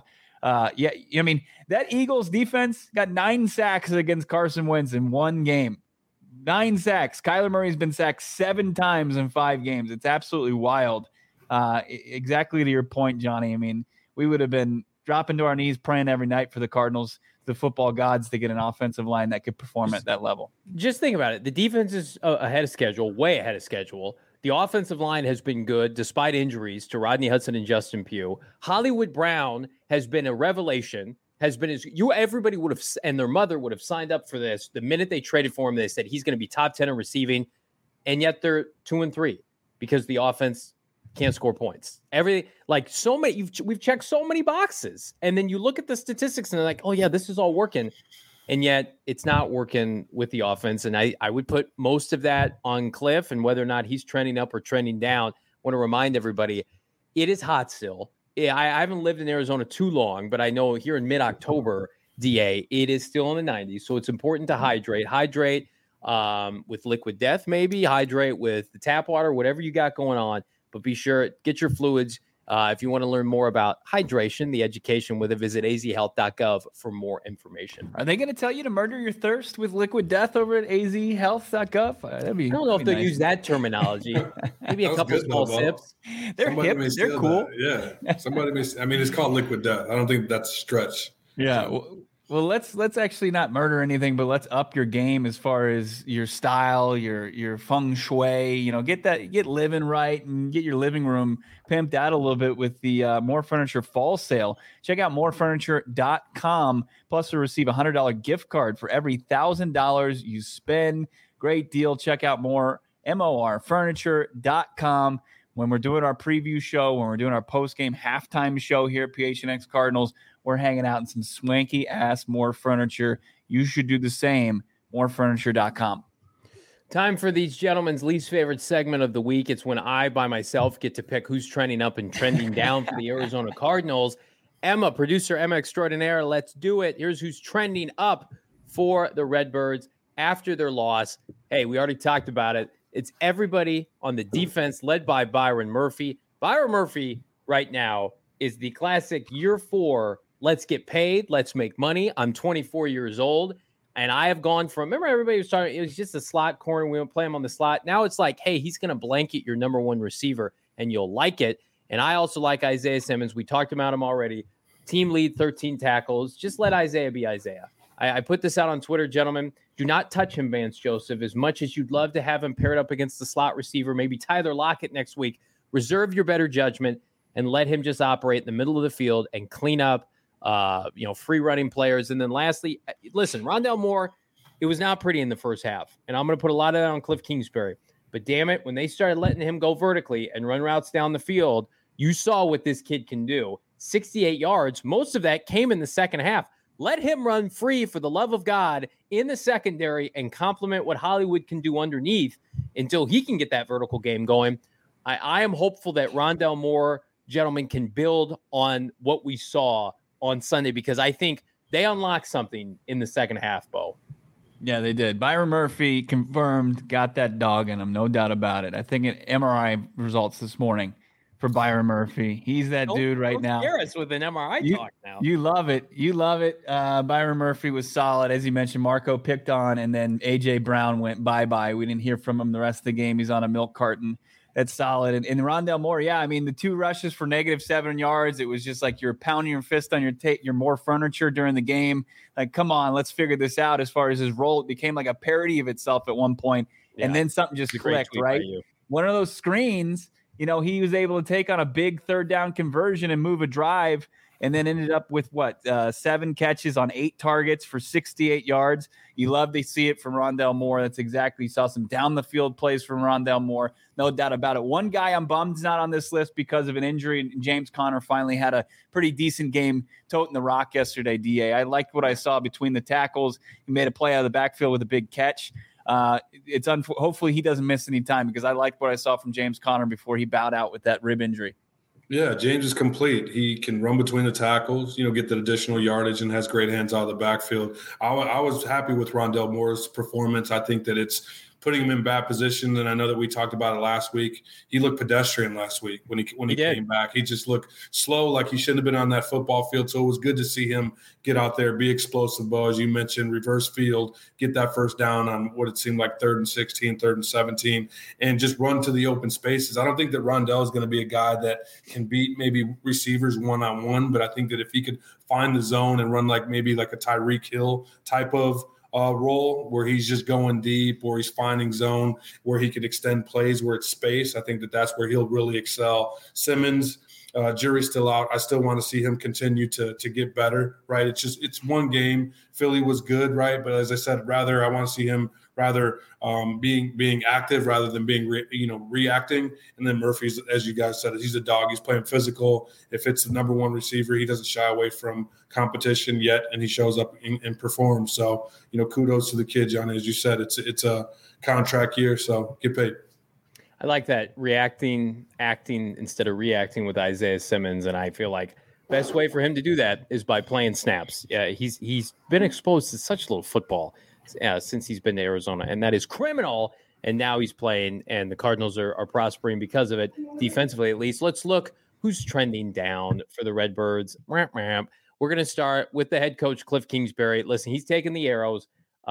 That Eagles defense got 9 sacks against Carson Wentz in one game. 9 sacks. Kyler Murray's been sacked 7 times in 5 games. It's absolutely wild. Exactly to your point, Johnny. I mean, we would have been dropping to our knees praying every night for the Cardinals, the football gods, to get an offensive line that could perform at that level. Just think about it. The defense is ahead of schedule, way ahead of schedule. The offensive line has been good despite injuries to Rodney Hudson and Justin Pugh. Hollywood Brown has been a revelation. Everybody would have, and their mother would have signed up for this. The minute they traded for him, they said he's going to be top 10 in receiving, and yet they're 2-3 because the offense can't score points. Everything, so many, we've checked so many boxes, and then you look at the statistics and they're like, oh yeah, this is all working, and yet it's not working with the offense. And I would put most of that on Cliff, and whether or not he's trending up or trending down. I want to remind everybody, it is hot still. I haven't lived in Arizona too long, but I know here in mid-October, DA, it is still in the 90s. So it's important to hydrate with Liquid Death, maybe hydrate with the tap water, whatever you got going on. But be sure, get your fluids. If you want to learn more about hydration, the education with it, visit azhealth.gov for more information. Are they going to tell you to murder your thirst with Liquid Death over at azhealth.gov? I don't know if they'll use that terminology. Maybe a couple small sips. They're hip. They're cool. That. Yeah. Somebody may. It's called Liquid Death. I don't think that's a stretch. Yeah. Well, let's actually not murder anything, but let's up your game as far as your style, your feng shui. Get living right and get your living room pimped out a little bit with the More Furniture fall sale. Check out morefurniture.com. Plus, you'll receive a $100 gift card for every $1,000 you spend. Great deal. Check out morefurniture.com. When we're doing our preview show, when we're doing our post-game halftime show here at PHNX Cardinals, we're hanging out in some swanky-ass More Furniture. You should do the same, morefurniture.com. Time for these gentlemen's least favorite segment of the week. It's when I, by myself, get to pick who's trending up and trending down for the Arizona Cardinals. Emma, producer Emma extraordinaire, let's do it. Here's who's trending up for the Redbirds after their loss. Hey, we already talked about it. It's everybody on the defense led by Byron Murphy. Byron Murphy right now is the classic year 4, let's get paid, let's make money. I'm 24 years old, and I have gone from, remember everybody was talking, it was just a slot corner. We don't play him on the slot. Now it's like, hey, he's going to blanket your number 1 receiver, and you'll like it. And I also like Isaiah Simmons. We talked about him already. Team lead, 13 tackles. Just let Isaiah be Isaiah. I put this out on Twitter, gentlemen. Do not touch him, Vance Joseph, as much as you'd love to have him paired up against the slot receiver, maybe Tyler Lockett next week. Reserve your better judgment and let him just operate in the middle of the field and clean up, free running players. And then lastly, listen, Rondale Moore, it was not pretty in the first half. And I'm going to put a lot of that on Cliff Kingsbury. But damn it, when they started letting him go vertically and run routes down the field, you saw what this kid can do. 68 yards. Most of that came in the second half. Let him run free for the love of God in the secondary and complement what Hollywood can do underneath until he can get that vertical game going. I am hopeful that Rondale Moore, gentlemen, can build on what we saw on Sunday, because I think they unlocked something in the second half, Bo. Yeah, they did. Byron Murphy confirmed, got that dog in him, no doubt about it. I think an MRI results this morning for Byron Murphy. He's that dude right now. Scare us with an MRI talk now. You love it. You love it. Byron Murphy was solid. As you mentioned, Marco picked on, and then A.J. Brown went bye-bye. We didn't hear from him the rest of the game. He's on a milk carton. That's solid. And Rondale Moore, yeah, I mean, the 2 rushes for -7 yards, it was just like you're pounding your fist on your Moore furniture during the game. Like, come on, let's figure this out. As far as his role, it became like a parody of itself at one point, and then something just clicked, right? One of those screens, he was able to take on a big 3rd down conversion and move a drive, and then ended up with 7 catches on 8 targets for 68 yards. You love to see it from Rondale Moore. That's exactly. You saw some down the field plays from Rondale Moore. No doubt about it. One guy I'm bummed is not on this list because of an injury. James Conner finally had a pretty decent game toting the rock yesterday, DA. I liked what I saw between the tackles. He made a play out of the backfield with a big catch. Hopefully he doesn't miss any time, because I liked what I saw from James Conner before he bowed out with that rib injury. Yeah, James is complete. He can run between the tackles, get the additional yardage, and has great hands out of the backfield. I was happy with Rondale Moore's performance. I think that it's putting him in bad position, and I know that we talked about it last week. He looked pedestrian last week when he came back. He just looked slow, like he shouldn't have been on that football field. So it was good to see him get out there, be explosive, Bo, as you mentioned, reverse field, get that first down on what it seemed like 3rd and 16, 3rd and 17, and just run to the open spaces. I don't think that Rondale is going to be a guy that can beat maybe receivers one-on-one, but I think that if he could find the zone and run maybe like a Tyreek Hill type of role where he's just going deep, or he's finding zone where he could extend plays where it's space, I think that that's where he'll really excel. Simmons, jury's still out. I still want to see him continue to get better, right? It's one game. Philly was good, right? But as I said, I want to see him being active rather than being reacting. And then Murphy's, as you guys said, he's a dog. He's playing physical. If it's the number 1 receiver, he doesn't shy away from competition yet, and he shows up and performs. So kudos to the kid, Johnny. As you said, it's a contract year, so get paid. I like that, acting instead of reacting with Isaiah Simmons, and I feel like best way for him to do that is by playing snaps. Yeah, he's been exposed to such little football since he's been to Arizona, and that is criminal. And now he's playing, and the Cardinals are prospering because of it, defensively at least. Let's look who's trending down for the Redbirds. We're going to start with the head coach, Cliff Kingsbury. Listen, he's taking the arrows.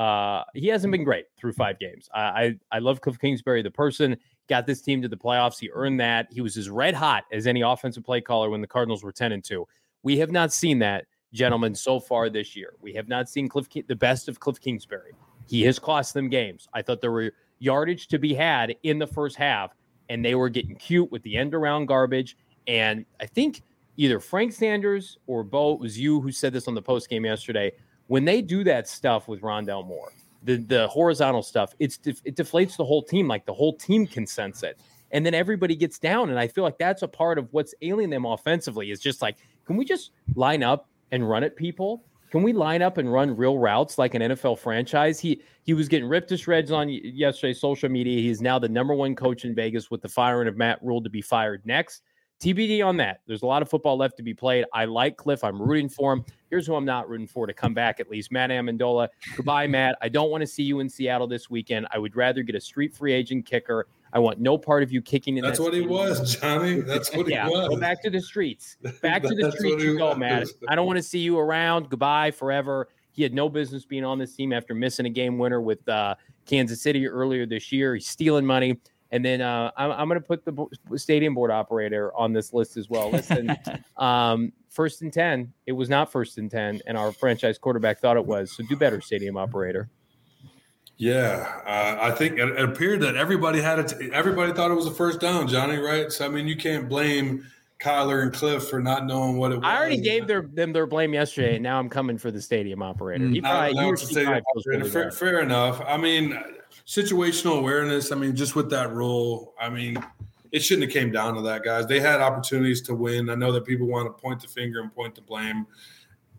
He hasn't been great through 5 games. I love Cliff Kingsbury, the person. Got this team to the playoffs. He earned that. He was as red hot as any offensive play caller when the Cardinals were 10-2. We have not seen that, gentlemen, so far this year. We have not seen the best of Cliff Kingsbury. He has cost them games. I thought there were yardage to be had in the first half, and they were getting cute with the end-around garbage. And I think either Frank Sanders or Bo, it was you who said this on the postgame yesterday, when they do that stuff with Rondale Moore, the horizontal stuff, it deflates the whole team. Like the whole team can sense it. And then everybody gets down. And I feel like that's a part of what's ailing them offensively, is just like, can we just line up and run at people? Can we line up and run real routes like an NFL franchise? He was getting ripped to shreds on yesterday's social media. He is now the number 1 coach in Vegas, with the firing of Matt Rule to be fired next. TBD on that. There's a lot of football left to be played. I like Cliff. I'm rooting for him. Here's who I'm not rooting for to come back at least. Matt Amendola. Goodbye, Matt. I don't want to see you in Seattle this weekend. I would rather get a street free agent kicker. I want no part of you kicking in. That's what he was, Johnny. That's what he was. Go back to the streets. Back to the streets you go, Matt. I don't want to see you around. Goodbye forever. He had no business being on this team after missing a game winner with Kansas City earlier this year. He's stealing money. And then I'm going to put the stadium board operator on this list as well. Listen, 1st and 10. It was not 1st and 10, and our franchise quarterback thought it was. So do better, stadium operator. Yeah, I think it appeared that everybody everybody thought it was a first down, Johnny, right? So, I mean, you can't blame Kyler and Cliff for not knowing what it was. I already gave them their blame yesterday, and now I'm coming for the stadium operator. Fair enough. I mean, situational awareness. I mean, just with that rule, I mean, it shouldn't have came down to that, guys. They had opportunities to win. I know that people want to point the finger and point the blame.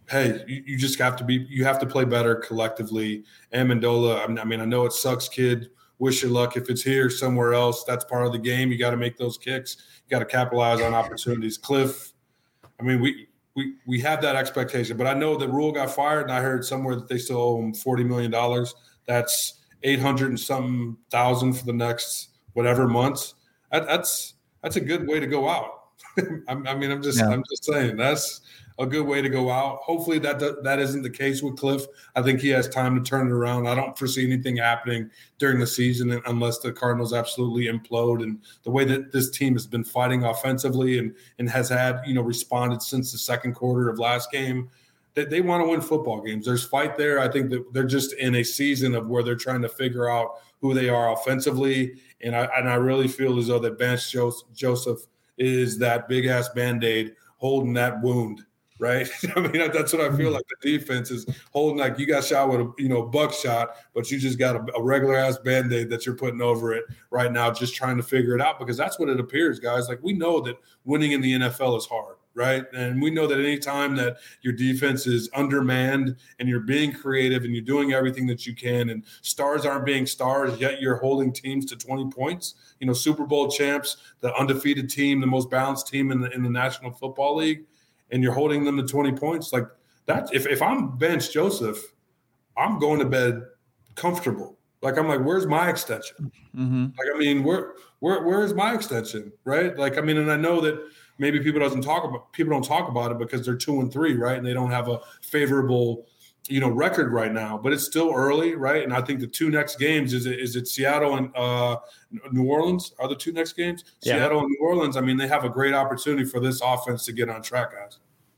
hey, you just have to play better collectively. Amendola, I mean, I know it sucks, kid. Wish you luck. If it's here somewhere else, that's part of the game. You got to make those kicks. You got to capitalize on opportunities. Cliff, I mean, we have that expectation, but I know that Rule got fired, and I heard somewhere that they still owe him $40 million. That's 800 and something thousand for the next whatever months. That's a good way to go out. I'm just saying that's a good way to go out. Hopefully that isn't the case with Cliff. I think he has time to turn it around. I don't foresee anything happening during the season unless the Cardinals absolutely implode. And the way that this team has been fighting offensively and has had, responded since the second quarter of last game, that they want to win football games. There's fight there. I think that they're just in a season of where they're trying to figure out who they are offensively. And I really feel as though that Vance Joseph is that big ass Band-Aid holding that wound. Right. I mean, that's what I feel like. The defense is holding, like you got shot with a buckshot, but you just got a regular ass Band-Aid that you're putting over it right now, just trying to figure it out, because that's what it appears, guys. Like, we know that winning in the NFL is hard, right? And we know that any time that your defense is undermanned and you're being creative and you're doing everything that you can, and stars aren't being stars, yet you're holding teams to 20 points. Super Bowl champs, the undefeated team, the most balanced team in the National Football League, and you're holding them to 20 points, like that. If I'm Vance Joseph, I'm going to bed comfortable. Like, I'm like, where's my extension? Mm-hmm. Like, I mean, where's my extension, right? Like, I mean, and I know that maybe people don't talk about it because they're 2-3, right? And they don't have a favorable, record right now, but it's still early, right? And I think the two next games is it Seattle and New Orleans are the two next games. Yeah. Seattle and New Orleans. I mean, they have a great opportunity for this offense to get on track, guys.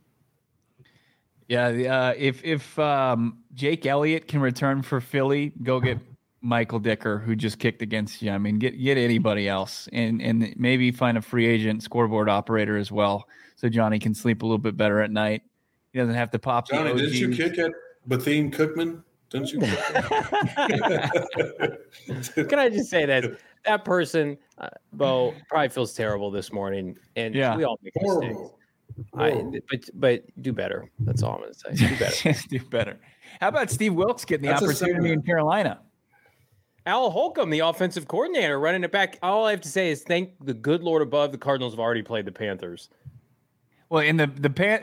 Yeah, if Jake Elliott can return for Philly, go get Michael Dicker, who just kicked against you. I mean, get anybody else, and maybe find a free agent scoreboard operator as well, so Johnny can sleep a little bit better at night. He doesn't have to pop. Johnny, didn't you kick at Bethune Cookman? Didn't you? Can I just say that person, Bo, probably feels terrible this morning, and we all make mistakes. But do better. That's all I'm going to say. Do better. Do better. How about Steve Wilks getting the opportunity in Carolina? Al Holcomb, the offensive coordinator, running it back. All I have to say is thank the good Lord above. The Cardinals have already played the Panthers. Well, in I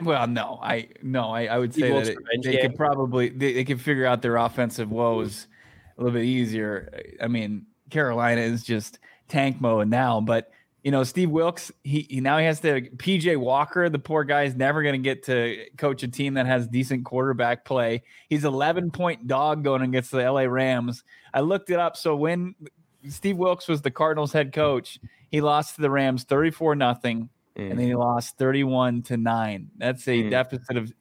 would say that they could probably they could figure out their offensive woes a little bit easier. I mean, Carolina is just tank mode now, but Steve Wilks, he now has to PJ Walker. The poor guy is never going to get to coach a team that has decent quarterback play. He's 11-point dog going against the LA Rams. I looked it up. So when Steve Wilks was the Cardinals head coach, he lost to the Rams 34-0. And then he lost 31-9. That's a deficit of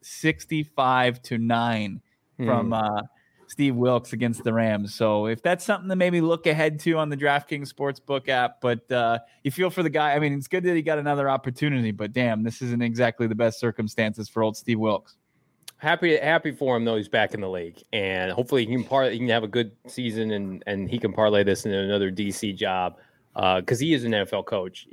65-9 from Steve Wilks against the Rams. So if that's something to maybe look ahead to on the DraftKings Sportsbook app, but you feel for the guy. I mean, it's good that he got another opportunity, but damn, this isn't exactly the best circumstances for old Steve Wilks. Happy for him though. He's back in the league, and hopefully he can have a good season, and he can parlay this into another DC job because he is an NFL coach.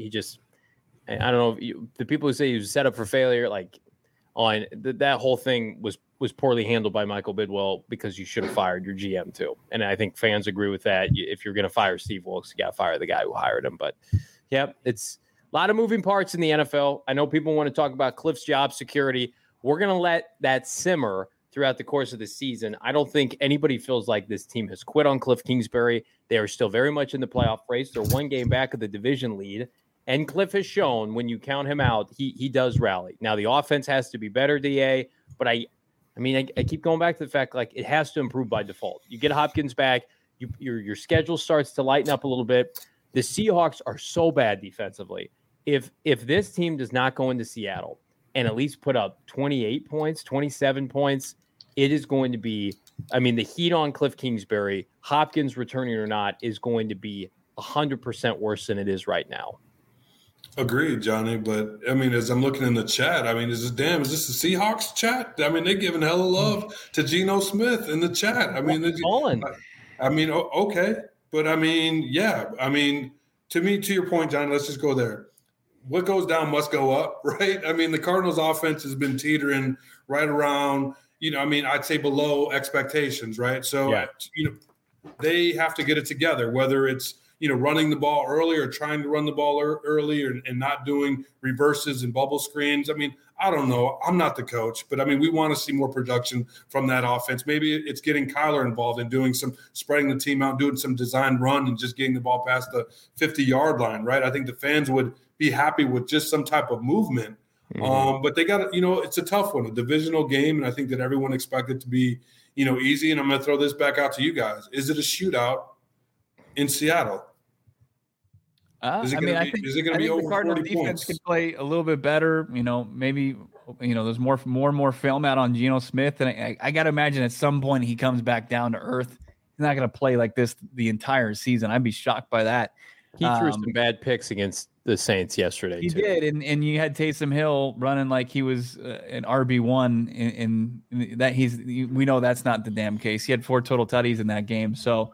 I don't know the people who say he was set up for failure, like on that whole thing was poorly handled by Michael Bidwell, because you should have fired your GM too. And I think fans agree with that. If you're going to fire Steve Wilks, you got to fire the guy who hired him. But yeah, it's a lot of moving parts in the NFL. I know people want to talk about Cliff's job security. We're going to let that simmer throughout the course of the season. I don't think anybody feels like this team has quit on Cliff Kingsbury. They are still very much in the playoff race. They're one game back of the division lead. And Cliff has shown when you count him out, he does rally. Now, the offense has to be better, DA, but I keep going back to the fact, like, it has to improve by default. You get Hopkins back, your schedule starts to lighten up a little bit. The Seahawks are so bad defensively. If this team does not go into Seattle and at least put up 28 points, 27 points, it is going to be, the heat on Cliff Kingsbury, Hopkins returning or not, is going to be 100% worse than it is right now. Agreed, Johnny. But as I'm looking in the chat, is this the Seahawks chat? They're giving hella love to Geno Smith in the chat. Okay. But to your point, Johnny, let's just go there. what goes down must go up, right? I mean, the Cardinals offense has been teetering right around, I'd say below expectations, right? So, they have to get it together, whether it's, running the ball early or trying to run the ball early and not doing reverses and bubble screens. I mean, I don't know. I'm not the coach, but we want to see more production from that offense. Maybe it's getting Kyler involved and doing some spreading the team out, doing some designed run and just getting the ball past the 50-yard line, right? I think the fans would be happy with just some type of movement. But they got it's a tough one, a divisional game. And I think that everyone expected it to be, easy. And I'm going to throw this back out to you guys. Is it a shootout in Seattle? I think the Cardinals defense could play a little bit better. Maybe there's more and more film out on Geno Smith, and I got to imagine at some point he comes back down to earth. He's not going to play like this the entire season. I'd be shocked by that. He threw some bad picks against the Saints yesterday. He did, and you had Taysom Hill running like he was an RB1. In that we know that's not the damn case. He had 4 total tutties in that game, so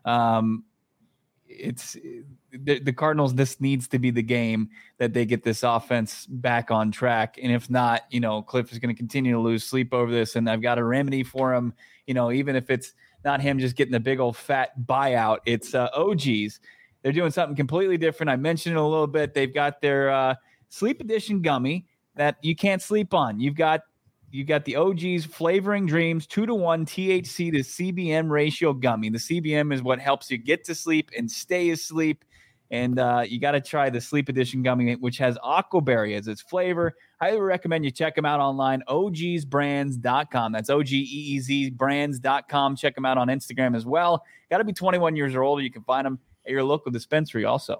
it's. The Cardinals, this needs to be the game that they get this offense back on track. And if not, Cliff is going to continue to lose sleep over this. And I've got a remedy for him, even if it's not him just getting a big old fat buyout, it's OGs. They're doing something completely different. I mentioned it a little bit. They've got their sleep edition gummy that you can't sleep on. You've got the OGs Flavoring Dreams 2-to-1 THC to CBM ratio gummy. The CBM is what helps you get to sleep and stay asleep. And you got to try the Sleep Edition gummy, which has aquaberry as its flavor. Highly recommend you check them out online, ogsbrands.com. That's OGEEZbrands.com. Check them out on Instagram as well. Got to be 21 years or older. You can find them at your local dispensary also.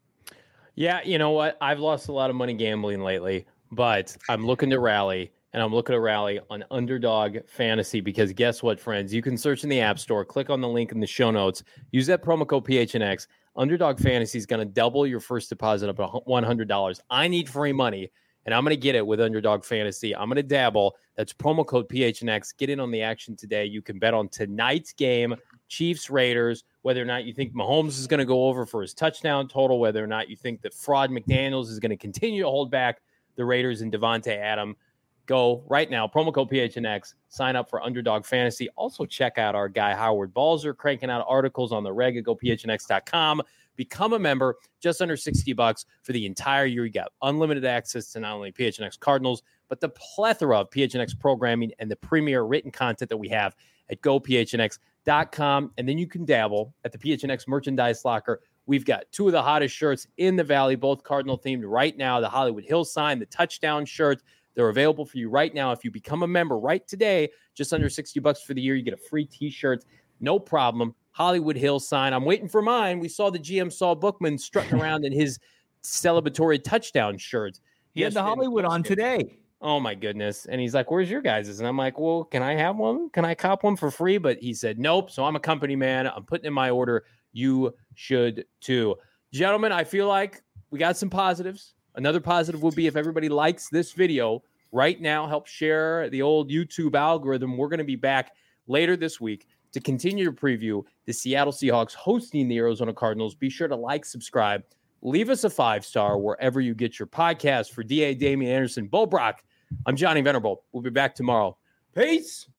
Yeah, you know what? I've lost a lot of money gambling lately, but I'm looking to rally. And I'm looking to rally on Underdog Fantasy because guess what, friends? You can search in the App Store, click on the link in the show notes, use that promo code PHNX. Underdog Fantasy is going to double your first deposit up to $100. I need free money, and I'm going to get it with Underdog Fantasy. I'm going to dabble. That's promo code PHNX. Get in on the action today. You can bet on tonight's game, Chiefs-Raiders, whether or not you think Mahomes is going to go over for his touchdown total, whether or not you think that Fraud McDaniels is going to continue to hold back the Raiders and Devontae Adams. Go right now, promo code PHNX, sign up for Underdog Fantasy. Also check out our guy Howard Balzer cranking out articles on the reg at gophnx.com. Become a member, just under $60 for the entire year. You got unlimited access to not only PHNX Cardinals, but the plethora of PHNX programming and the premier written content that we have at gophnx.com. And then you can dabble at the PHNX merchandise locker. We've got 2 of the hottest shirts in the Valley, both Cardinal themed right now, the Hollywood Hills sign, the touchdown shirt. They're available for you right now. If you become a member right today, just under $60 for the year, you get a free t-shirt. No problem. Hollywood Hills sign. I'm waiting for mine. We saw the GM Saul Bookman strutting around in his celebratory touchdown shirt. He had the Hollywood on today. Oh, my goodness. And he's like, where's your guys'? And I'm like, well, can I have one? Can I cop one for free? But he said, nope. So I'm a company man. I'm putting in my order. You should too. Gentlemen, I feel like we got some positives. Another positive would be if everybody likes this video right now, help share the old YouTube algorithm. We're going to be back later this week to continue to preview the Seattle Seahawks hosting the Arizona Cardinals. Be sure to like, subscribe, leave us a 5-star wherever you get your podcast. For DA Damian Anderson, Bo Brock, I'm Johnny Venerable. We'll be back tomorrow. Peace.